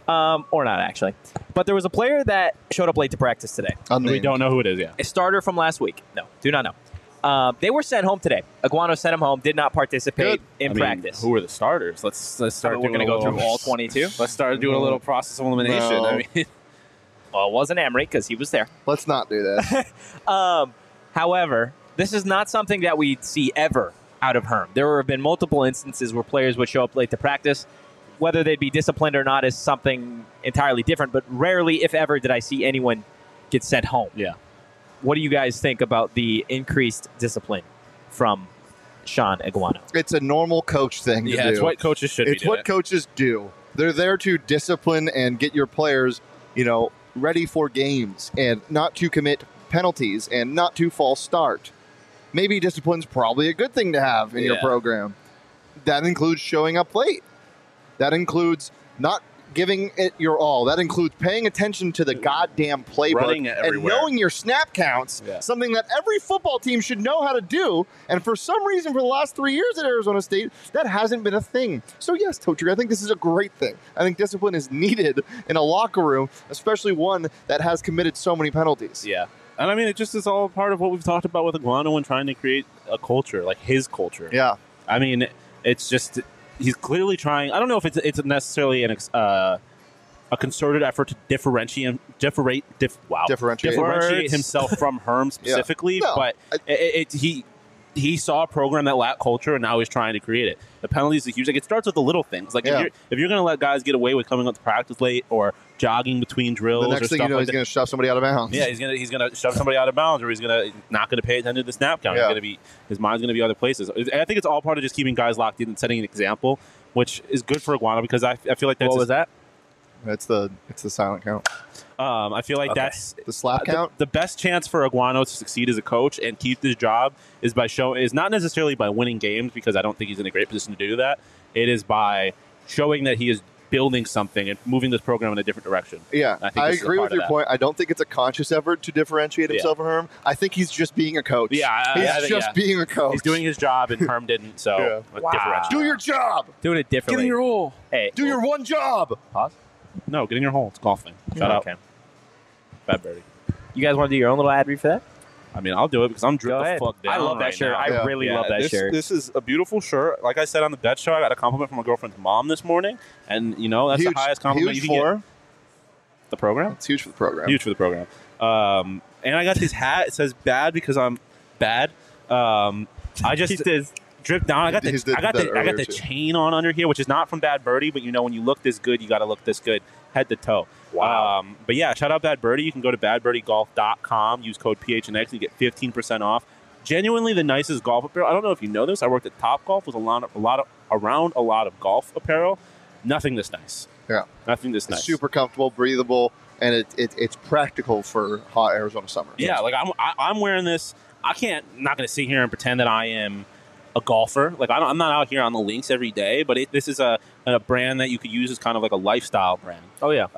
or not actually, but there was a player that showed up late to practice today. We don't know who it is. Yeah, a starter from last week. No, do not know. They were sent home today. Iguano sent him home. Did not participate in practice. Who are the starters? Let's start. We're going to go through all 22. Let's start doing a little process of elimination. No. I mean, Well, it wasn't Emery because he was there. Let's not do that. However, this is not something that we see ever out of Herm. There have been multiple instances where players would show up late to practice. Whether they'd be disciplined or not is something entirely different, but rarely, if ever, did I see anyone get sent home. Yeah. What do you guys think about the increased discipline from Sean Iguano? It's a normal coach thing to do. It's what coaches should be It's what coaches do. They're there to discipline and get your players, ready for games and not to commit penalties and not to false start. Maybe discipline's probably a good thing to have in your program. That includes showing up late. That includes not giving it your all. That includes paying attention to the goddamn playbook and knowing your snap counts, something that every football team should know how to do. And for some reason, for the last 3 years at Arizona State, that hasn't been a thing. So yes, Totri, I think this is a great thing. I think discipline is needed in a locker room, especially one that has committed so many penalties. Yeah. And I mean, it just is all part of what we've talked about with Iguano and trying to create a culture, like his culture. Yeah. I mean, it's just... He's clearly trying. I don't know if it's necessarily a concerted effort to differentiate himself from Herm specifically, but he saw a program that lacked culture, and now he's trying to create it. The penalties are huge. Like, it starts with the little things. Like if you're going to let guys get away with coming up to practice late or jogging between drills, the next thing you know, he's going to shove somebody out of bounds. Yeah, he's gonna shove somebody out of bounds, or he's not gonna pay attention to the snap count. His mind's gonna be other places. I think it's all part of just keeping guys locked in and setting an example, which is good for Iguano because I feel like that's what was that? It's the silent count. I feel like that's the slap count. The best chance for Iguano to succeed as a coach and keep this job is not necessarily by winning games, because I don't think he's in a great position to do that. It is by showing that he is building something and moving this program in a different direction. Yeah, I agree with your point. I don't think it's a conscious effort to differentiate himself from Herm. I think he's just being a coach. Yeah, he's just being a coach. He's doing his job, and Herm didn't. So differentiate. Do your job. Doing it differently. Get in your hole. Hey, do your one job. Pause. No, get in your hole. It's golfing. Shut up. Bad birdie. You guys want to do your own little ad read for that? I mean, I'll do it because I'm dripping the fuck down. I love that shirt. I really love that shirt. This is a beautiful shirt. Like I said on the bet show, I got a compliment from my girlfriend's mom this morning, and that's the highest compliment you can get. The program? It's huge for the program. Huge for the program. And I got this hat. It says "bad" because I'm bad. I just dripped down. I got the chain on under here, which is not from Bad Birdie, but when you look this good, you got to look this good head to toe. Wow. But yeah, shout out Bad Birdie. You can go to badbirdiegolf.com, use code PHNX, and you get 15% off. Genuinely the nicest golf apparel. I don't know if you know this. I worked at Topgolf with around a lot of golf apparel. Nothing this nice. Yeah. Nothing this nice. Super comfortable, breathable, and it's practical for hot Arizona summer. Yeah, like I'm wearing this. Not going to sit here and pretend that I am a golfer. Like I'm not out here on the links every day, but this is a brand that you could use as kind of like a lifestyle brand. Oh yeah.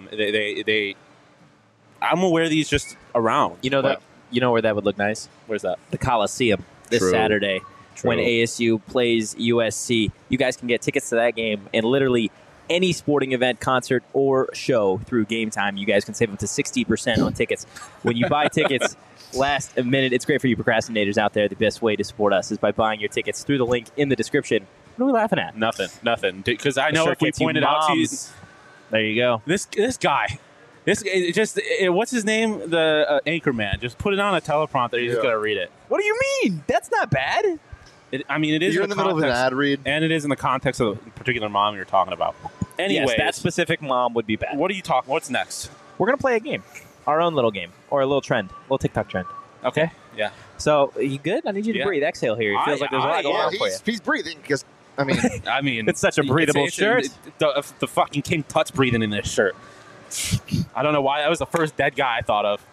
I'm gonna wear these just around. You know where that would look nice? Where's that? The Coliseum this True. Saturday when ASU plays USC. You guys can get tickets to that game and literally any sporting event, concert, or show through Game Time. You guys can save up to 60% on tickets. When you buy tickets last minute, it's great for you procrastinators out there. The best way to support us is by buying your tickets through the link in the description. What are we laughing at? Nothing. Because I know if we pointed out to you, there you go. This guy. What's his name? The anchor man. Just put it on a teleprompter. You're just gonna read it. What do you mean? That's not bad. It is. You're in the middle of an ad read, and it is in the context of the particular mom you're talking about. Anyways, yes, that specific mom would be bad. What are you talking? What's next? We're gonna play a game, our own little game, or a little trend, a little TikTok trend. Okay. Yeah. So, you good? I need you to breathe. Exhale here. It feels like there's a lot going on for you. He's breathing because I mean, it's such a breathable shirt. The fucking King Tut's breathing in this shirt. I don't know why. That was the first dead guy I thought of.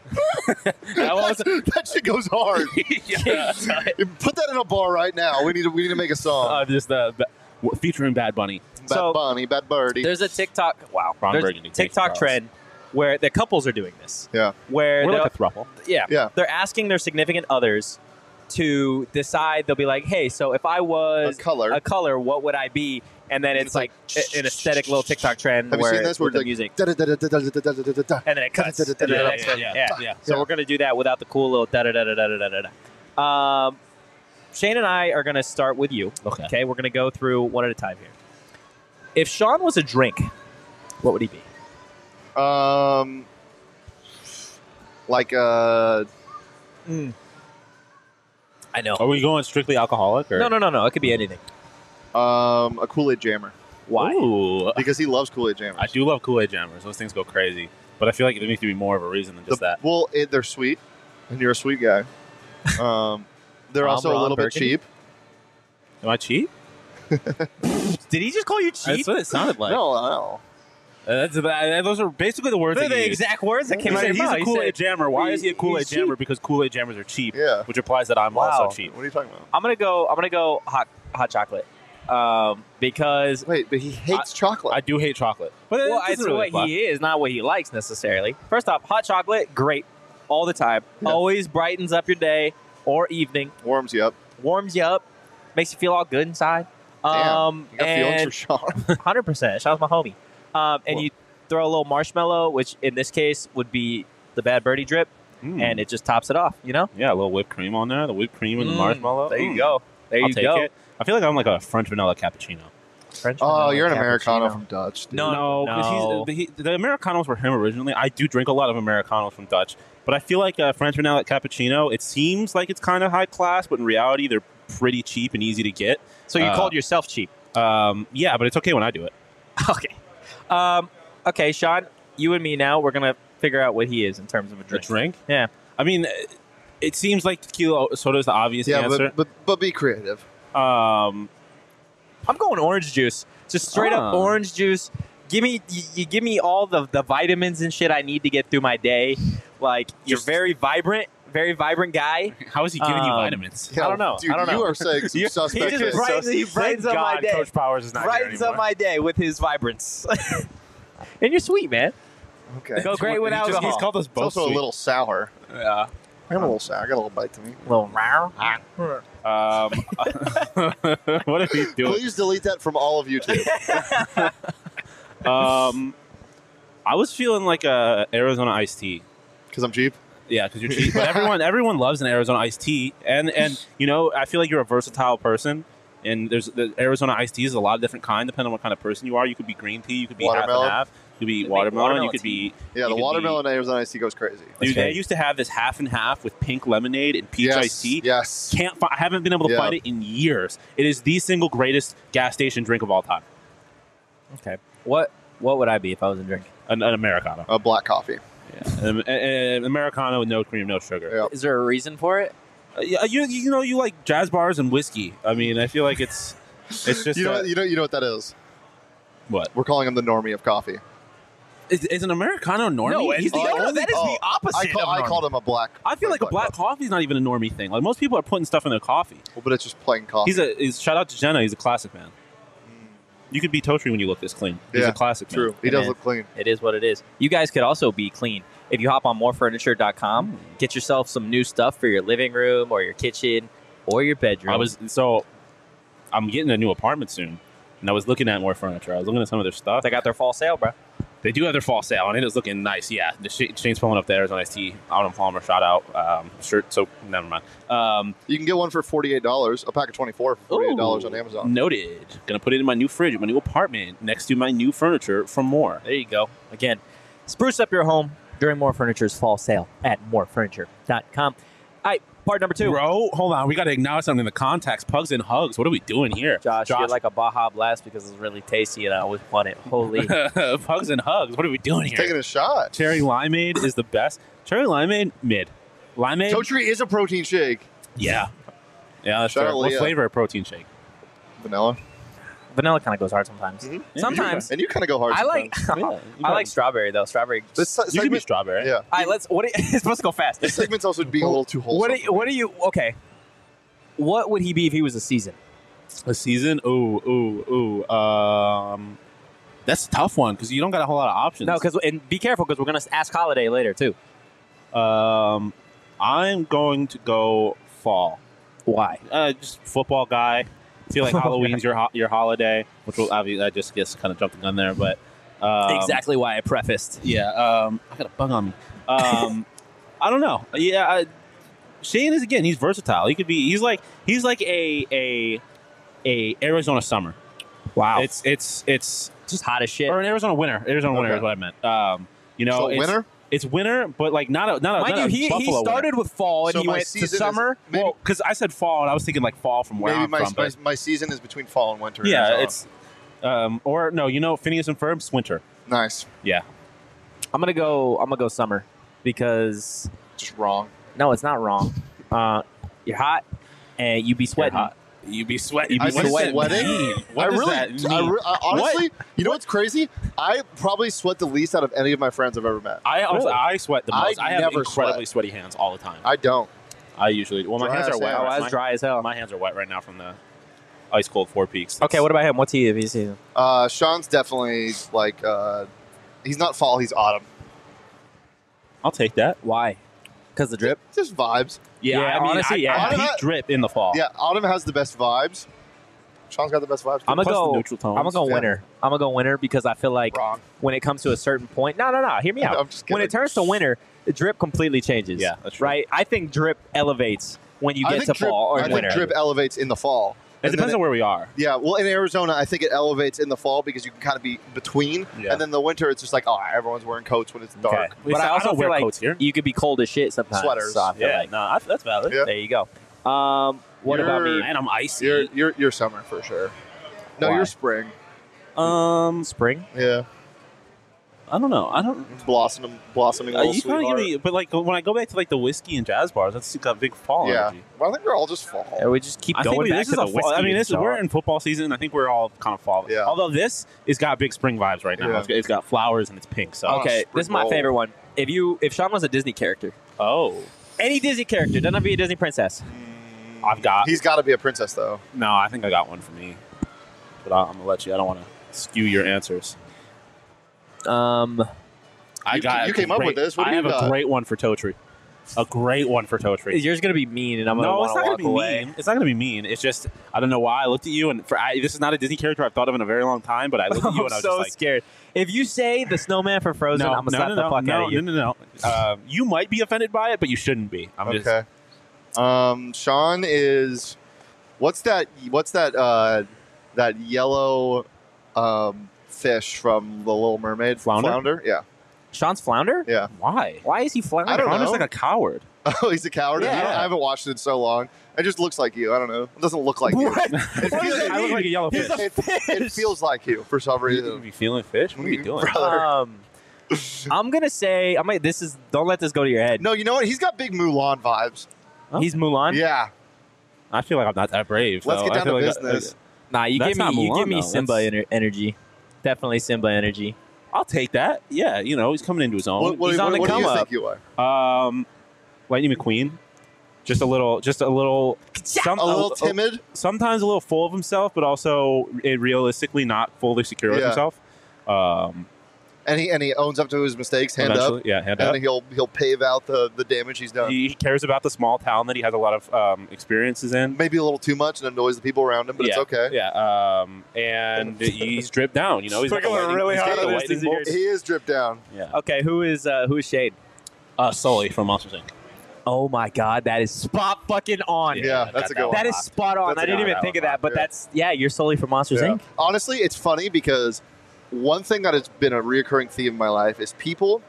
That shit goes hard. Yeah. Put that in a bar right now. We need to make a song. Featuring Bad Bunny. Bad Birdie. There's a TikTok. Wow. Ron There's Burgundy, a TikTok trend where the couples are doing this. Yeah. Where we're like a throuple. Yeah. They're asking their significant others to decide. They'll be like, "Hey, so if I was a color, what would I be?" And then it's like an aesthetic little TikTok trend. Have you seen this? Where the music, and then it cuts. Yeah. So we're gonna do that without the cool little da da da da da da da. Shane and I are gonna start with you. Okay. We're gonna go through one at a time here. If Sean was a drink, what would he be? Like I know. Are we going strictly alcoholic? Or? No. It could be anything. a Kool-Aid jammer. Why? Ooh. Because he loves Kool-Aid jammers. I do love Kool-Aid jammers. Those things go crazy. But I feel like there needs to be more of a reason than just that. Well, they're sweet, and you're a sweet guy. They're also a little bit cheap. Am I cheap? Did he just call you cheap? That's what it sounded like. No. Those are basically the words. They're the exact words that came out of your mouth. He's a Kool-Aid jammer. Why is he a Kool-Aid jammer? Because Kool-Aid jammers are cheap. Yeah. Which implies that I'm also cheap. What are you talking about? I'm gonna go hot chocolate. Because wait, but he hates chocolate. I do hate chocolate. But it's really what he is, not what he likes necessarily. First off, hot chocolate, great, all the time. Yeah. Always brightens up your day or evening. Warms you up. Makes you feel all good inside. Damn, you got feelings for Sean. 100%. Sean's my homie. And you throw a little marshmallow, which in this case would be the Bad Birdie drip, and it just tops it off, you know? Yeah, a little whipped cream on there. The whipped cream and the marshmallow. There you go. I'll take it. I feel like I'm like a French vanilla cappuccino. You're an Americano from Dutch. Dude. No. The Americanos were him originally. I do drink a lot of Americanos from Dutch, but I feel like a French vanilla cappuccino, it seems like it's kind of high class, but in reality, they're pretty cheap and easy to get. So you called yourself cheap? Yeah, but it's okay when I do it. Okay. Okay, Sean, you and me now, we're going to figure out what he is in terms of a drink. A drink? Yeah. I mean, it seems like tequila soda is the obvious answer. But be creative. I'm going orange juice. Just straight up orange juice. Give me all the vitamins and shit I need to get through my day. Like, you're very vibrant guy. How is he giving you vitamins? Yeah, I don't know. Dude, you are saying some suspect things. He brightens up my day. Coach Powers is not here anymore. Brightens up my day with his vibrance. And you're sweet, man. Okay. Go great with alcohol. He's called us both It's also sweet. a little sour. Yeah. I'm a little sour. I got a little bite to me. A little rare. What are we doing? Please delete that from all of YouTube. I was feeling like a Arizona iced tea. Because I'm cheap? Yeah, because you're cheap. But everyone loves an Arizona iced tea. And you know, I feel like you're a versatile person. And there's the Arizona iced tea is a lot of different kind, depending on what kind of person you are. You could be green tea, you could be Watermelon. half and half. You could be watermelon. You could tea. be Yeah, the watermelon Arizona iced tea goes crazy. Dude, they used to have this half and half with pink lemonade and peach iced tea. Yes. I haven't been able to find it in years. It is the single greatest gas station drink of all time. Okay. What would I be if I was a drink? An Americano. A black coffee. Yeah. An Americano with no cream, no sugar. Yep. Is there a reason for it? You like jazz bars and whiskey. I mean, I feel like it's just you know what that is? What? We're calling him the normie of coffee. Is an Americano normie? No, He's the that is the opposite. I called him a black. I feel like a black coffee is not even a normie thing. Like most people are putting stuff in their coffee. Well, but it's just plain coffee. Shout out to Jenna. He's a classic man. You could be Totri when you look this clean. He's a classic true. man. He does look clean. It is what it is. You guys could also be clean. If you hop on morefurniture.com, get yourself some new stuff for your living room or your kitchen or your bedroom. I'm getting a new apartment soon, and I was looking at more furniture. I was looking at some of their stuff. They got their fall sale, bro. They do have their fall sale, and it is looking nice. Yeah, the Shane's pulling up the Arizona Iced Tea Autumn Palmer shout out shirt. So never mind. You can get one for $48. A pack of 24 for $48 on Amazon. Noted. Gonna put it in my new fridge, my new apartment, next to my new furniture from More. There you go. Again, spruce up your home during More Furniture's fall sale at morefurniture.com. All right, part number 2. Bro, hold on. We got to acknowledge something in the context. Pugs and hugs. What are we doing here? Josh, you're like a Baja Blast because it's really tasty and I always want it. Holy. Pugs and hugs. What are we doing here? Taking a shot. Cherry limeade is the best. Cherry limeade, mid. Limeade. Totri is a protein shake. Yeah. Yeah, that's Shout fair. out What Leah. flavor of protein shake? Vanilla. Vanilla kind of goes hard sometimes. Mhm. Yeah, Sometimes. And you kind of go hard. I like sometimes. I like strawberry though. Strawberry. This You can be segment, strawberry. yeah. All right, it's supposed to go fast. This segment's also being a little too wholesome. What are you okay? What would he be if he was a season? A season? Ooh. That's a tough one because you don't got a whole lot of options. No, and be careful because we're gonna ask Holiday later too. I'm going to go fall. Why? Just football guy. I feel like Halloween's your holiday, which will obviously I just guess kind of jumped the gun there, but Exactly why I prefaced. yeah. I got a bug on me. I don't know. Yeah, Shane is he's versatile. He's like a Arizona summer. Wow. It's just hot as shit. or an Arizona winter. Arizona winter Okay. is what I meant. So it's, winter? It's winter, but like not a Mind you, he Buffalo started with fall and So he my went to season is- summer. maybe- Well, because I said fall and I was thinking like fall from where Maybe I'm from. But my season is between fall and winter. in yeah, Arizona. it's or no, Phineas and Ferb's winter. nice. Yeah, I'm gonna go summer because Just wrong. no, it's not wrong. You're hot and you be sweating. hot. You be sweating. I be sweating? What I does really, that mean? I honestly, you know what's crazy? I probably sweat the least out of any of my friends I've ever met. I sweat the most. I I have never incredibly sweat. sweaty hands all the time. I don't. I usually my Dry hands as are wet. hell. Oh, My- that's dry as hell. My hands are wet right now from the ice cold Four Peaks. Okay, what about him? What's he if he's season? Sean's definitely like, he's not fall, he's autumn. I'll take that. Why? Because the drip. Just vibes. Yeah, Yeah, I mean, honestly, yeah. I peak drip in the fall. Yeah, autumn has the best vibes. Sean's got the best vibes. I'm gonna Plus the go. neutral tones. I'm gonna go Yeah. winter. I'm gonna go winter because I feel like Wrong. when it comes to a certain point, no, hear me out. I'm just When it kidding. turns to winter, the drip completely changes. Yeah, that's true. right. I think drip elevates when you I get think to fall or I winter. think drip elevates in the fall. It And depends then on where we are. Yeah, well, in Arizona, I think it elevates in the fall because you can kind of be between. Yeah. And then the winter, it's just like, oh, everyone's wearing coats when it's dark. Okay. But But I also don't feel wear like coats here. you could be cold as shit sometimes. Sweaters. So I feel like that's valid. Yeah. there you go. What about me? And I'm icy. You're summer for sure. No, Why? you're spring. Spring. Yeah, I don't know. blossoming little You kind of sweetheart. give me, but like when I go back to like the whiskey and jazz bars, that's got big fall Yeah, energy. well, I think we're all just fall. Yeah, we just keep I think going back this to is the a fall. whiskey. I mean, and we're in football season. I think we're all kind of fall. Yeah. Although this has got big spring vibes right now. Yeah. It's got flowers and it's pink. So Okay, spring this is my roll. favorite one. If Sean was a Disney character, any Disney character, doesn't have to be a Disney princess. I've got. He's got to be a princess, though. No, I think I got one for me. But I'm gonna let you. I don't want to skew your answers. You came up with this. What do I you have got? a great one for Totri. A great one for Totri. Yours gonna be mean, and I'm gonna No, it's want not to going walk to be away. mean. It's not going to be mean. It's just, I don't know why I looked at you, and this is not a Disney character I've thought of in a very long time, but I looked at you I'm and I was so just like, scared. If you say the snowman for Frozen, I'm gonna slap the fuck out of you. No. You might be offended by it, but you shouldn't be. I'm just, Okay. Sean is. What's that? That yellow fish from The Little Mermaid. Flounder? Yeah. Sean's flounder? Yeah. Why? Why is he flounder? I don't Flounder's know. like a coward. Oh, he's a coward? Yeah. I haven't watched it in so long. It just looks like you. I don't know. It doesn't look like you. What? It What feels, does that I look like a yellow He's fish. it feels like you for some You reason. be feeling fish? What are you doing? Brother. I'm gonna say don't let this go to your head. No, you know what? He's got big Mulan vibes. He's Mulan. Yeah. I feel like I'm not that brave. Let's so get I down feel to like business. Nah, you That's give me not you Mulan, give me though. Simba energy. Definitely Simba energy. I'll take that. Yeah, he's coming into his own. What He's on the do come you up. think you are? Lightning McQueen. Just a little. A little timid? Sometimes a little full of himself, but also realistically not fully secure with Yeah. himself. And he owns up to his mistakes, hand Eventually, up. yeah, hand up. And he'll pave out the damage he's done. He cares about the small town that he has a lot of experiences in. Maybe a little too much and annoys the people around him, but yeah, it's okay. Yeah, and he's dripped down. He's We're got the going lightning- really he's got hard the on this lightning this year. bolts. He is dripped down. Yeah. Okay, who is Shade? Sully from Monsters Inc. Oh my God, that is spot fucking on. Yeah, that's a good one. That is spot on. That's I a didn't good even one. think of that, but Yeah. you're solely from Monsters Yeah. Inc. Honestly, it's funny because one thing that has been a reoccurring theme in my life is people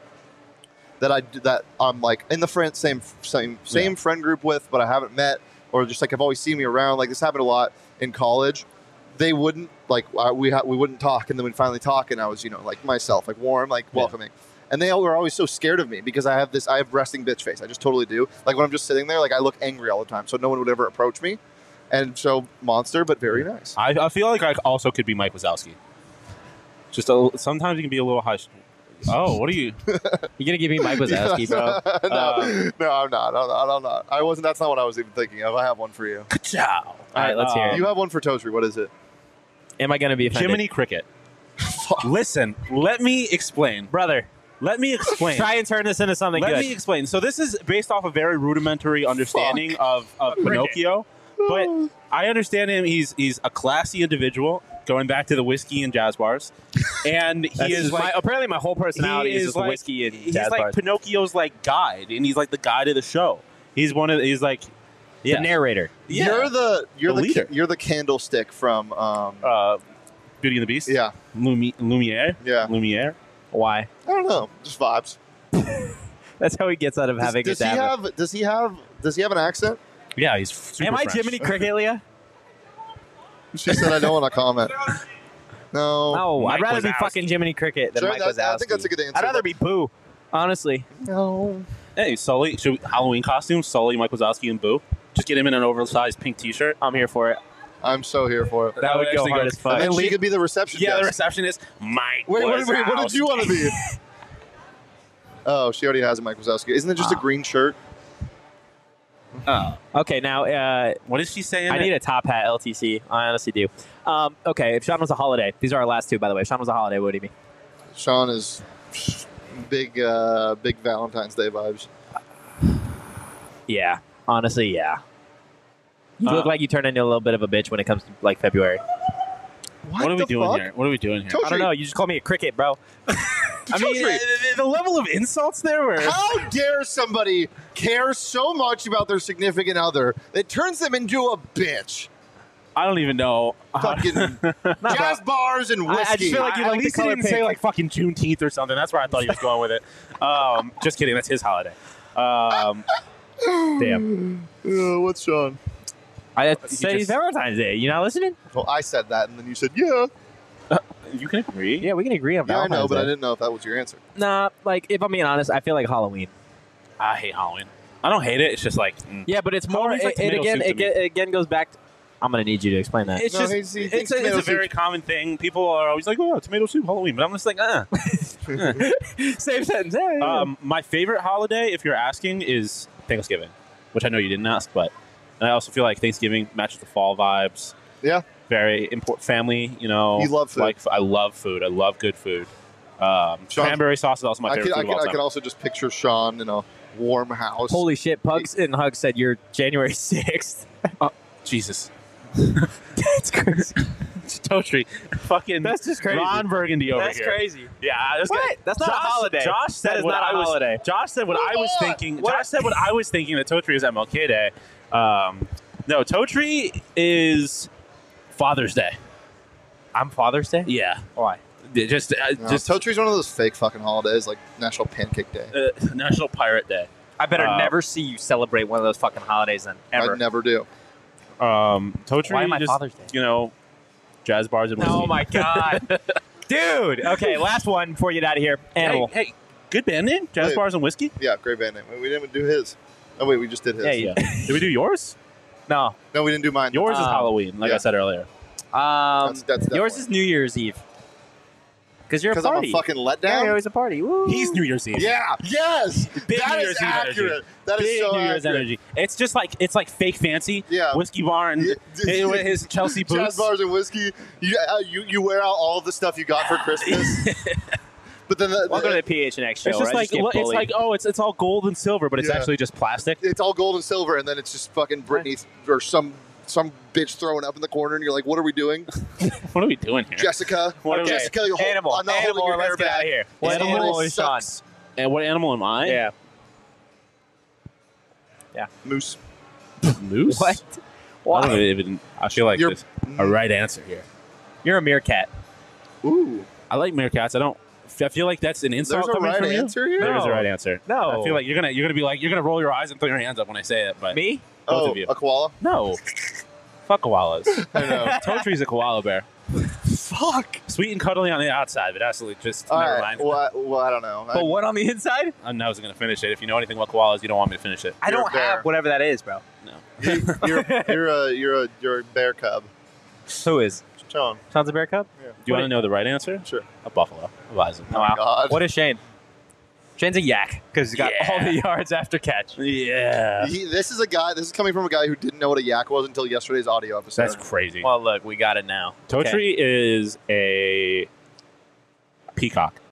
that I'm like in the same friend group with, but I haven't met, or just like have always seen me around. Like this happened a lot in college. They wouldn't we wouldn't talk, and then we'd finally talk, and I was like myself, like warm, like welcoming. And they all were always so scared of me because I have resting bitch face. I just totally do. Like when I'm just sitting there, like I look angry all the time, so no one would ever approach me. And so monster, but very nice. I feel like I also could be Mike Wazowski. Sometimes you can be a little hush. Oh, what are you? You gonna give me Mike Wazowski, bro? No, I'm not. I'm not. I wasn't. That's not what I was even thinking of. I have one for you. Ciao. All right, let's hear it. You have one for Toastry. What is it? Am I gonna be offended? Jiminy Cricket. Listen, let me explain. Brother, Let me explain. try and turn this into something Let good. me explain. So this is based off a very rudimentary understanding of Pinocchio, but I understand him. He's a classy individual, going back to the whiskey and jazz bars, and he is like apparently my whole personality is just like, whiskey and he's jazz like bars. Pinocchio's like guide, and he's like the guide of the show. He's like The narrator. You're the leader. you're the candlestick from Beauty and the Beast. yeah. Lumiere. Yeah. Lumiere. Why? I don't know. Just vibes. That's how he gets out of having Does a he dab. have an accent? Yeah, he's super Am I French. Jiminy Cricket, Leah? She said I don't want to comment. No. No, I'd Mike rather be Wazowski. fucking Jiminy Cricket than Sure, Mike I think Wazowski. that's a good answer, I'd rather but- be Boo, honestly. No. Hey, Sully. Halloween costume? Sully, Mike Wazowski, and Boo. Just get him in an oversized pink T-shirt. I'm here for it. I'm so here for it. That would go actually hard go- as fuck. And then And she Lee- could be the reception Yeah, the desk. receptionist, Mike. Wait, what did you want to be? Oh, she already has a Mike Wazowski. Isn't it just a green shirt? Oh. Okay, now What is she saying? I need a top hat LTC. I honestly do. Okay, if Sean was a holiday, these are our last two, by the way. If Sean was a holiday, what would he be? Sean is big Valentine's Day vibes. Yeah, honestly, yeah. You look like you turn into a little bit of a bitch when it comes to like February. What are we the doing fuck? here? What are we doing here? Toast- I don't know. You just call me a cricket, bro. I mean, Toastry. the level of insults there were. How dare somebody care so much about their significant other that turns them into a bitch? I don't even know. Fucking jazz bars and I whiskey. just feel like you At like the least he color didn't say pink. like fucking Juneteenth or something. That's where I thought he was going with it. Just kidding. That's his holiday. Damn. What's Sean? I You say just- Valentine's Day. You not listening? Well, I said that, and then you said, yeah. You can agree. Yeah, we can agree on Yeah, I Valentine's know, but Day. I didn't know if that was your answer. Nah, like if I'm being honest, I feel like Halloween. I hate Halloween. I don't hate it. It's just like Yeah, but it's more. Halloween's like It tomato again, soup to it, me. it again goes back. I'm gonna need you to explain that. it's No, just he it's thinks a tomato very soup. common thing. People are always like, "Oh, tomato soup, Halloween," but I'm just like, Same sentence. Yeah. My favorite holiday, if you're asking, is Thanksgiving, which I know you didn't ask, but and I also feel like Thanksgiving matches the fall vibes. Yeah. Very important family. You know, You love food. Like I love food. I love good food. Cranberry sauce is also my favorite food of all I time. can also just picture Sean in a warm house. Holy shit! Pugs and Hugs said you're January 6th. Jesus. That's crazy. Toastry. Fucking That's just crazy. Ron Burgundy over That's here. crazy. Yeah, this What? guy- That's not a holiday. Josh said That is what not a I was. holiday. Josh said what I was What? thinking. What? Josh said what I was thinking that Totri is MLK Day. No, Totri is Father's Day. I'm Father's Day. Yeah. Why? Toe Tree's one of those fake fucking holidays, like National Pancake Day. National Pirate Day. I better never see you celebrate one of those fucking holidays then, ever. I never do. Toe Tree, Why am I just, Father's Day? Jazz bars and whiskey. Oh my god. Dude. Okay, last one before you get out of here. Animal. Hey, good band name? Jazz bars and whiskey? Yeah, great band name. We didn't do his. Oh, wait, we just did his. Yeah. Did we do yours? No. No, we didn't do mine. Yours is Halloween, like I said earlier. That's yours is New Year's Eve. Because you're a Because I'm party. a fucking letdown? Yeah, you're always a party. Woo. He's New Year's Eve. Yeah. Yes. Big That New is Year's Eve accurate. energy. That is Big so New Year's accurate. energy. It's just like fake fancy. Yeah. Whiskey bar and with his Chelsea boots. Jazz bars and whiskey. You wear out all the stuff you got for Christmas. But then Welcome to the PHNX show. It's just right? it's all gold and silver, but it's Yeah. actually just plastic. it's all gold and silver, and then it's just fucking Britney or some bitch throwing up in the corner, and you're like, "What are we doing, What are we doing here? Jessica? Okay. Jessica, you Animal. I'm not Animal. holding your hair Let's get out of back. here. What This animal holiday is Sean? sucks. And what animal am I? Yeah. Moose. Moose. What? I Why? don't even. I feel like You're- there's a right answer here. You're a meerkat. Ooh. I like meerkats. I feel like that's an insult There's a coming right from answer you. here? There is a No. right answer. No. I feel like you're gonna be like you're gonna roll your eyes and throw your hands up when I say it. But Me? both Oh, of you. a koala. No. Fuck koalas. I know. Toe Tree's a koala bear. Fuck. Sweet and cuddly on the outside, but absolutely just All never right. mind. Well, I don't know. But what on the inside? I wasn't gonna finish it. If you know anything about koalas, you don't want me to finish it. I You're don't a bear. have whatever that is, bro. No. You're a bear cub. Who is? Sean. Sean's a bear cub? Do you want to know the right answer? Sure. A buffalo. A bison. Oh, wow. God. What is Shane? Shane's a yak because he's got all the yards after catch. Yeah. This is coming from a guy who didn't know what a yak was until yesterday's audio episode. That's crazy. Well, look, we got it now. Toe Okay. Tree is a peacock.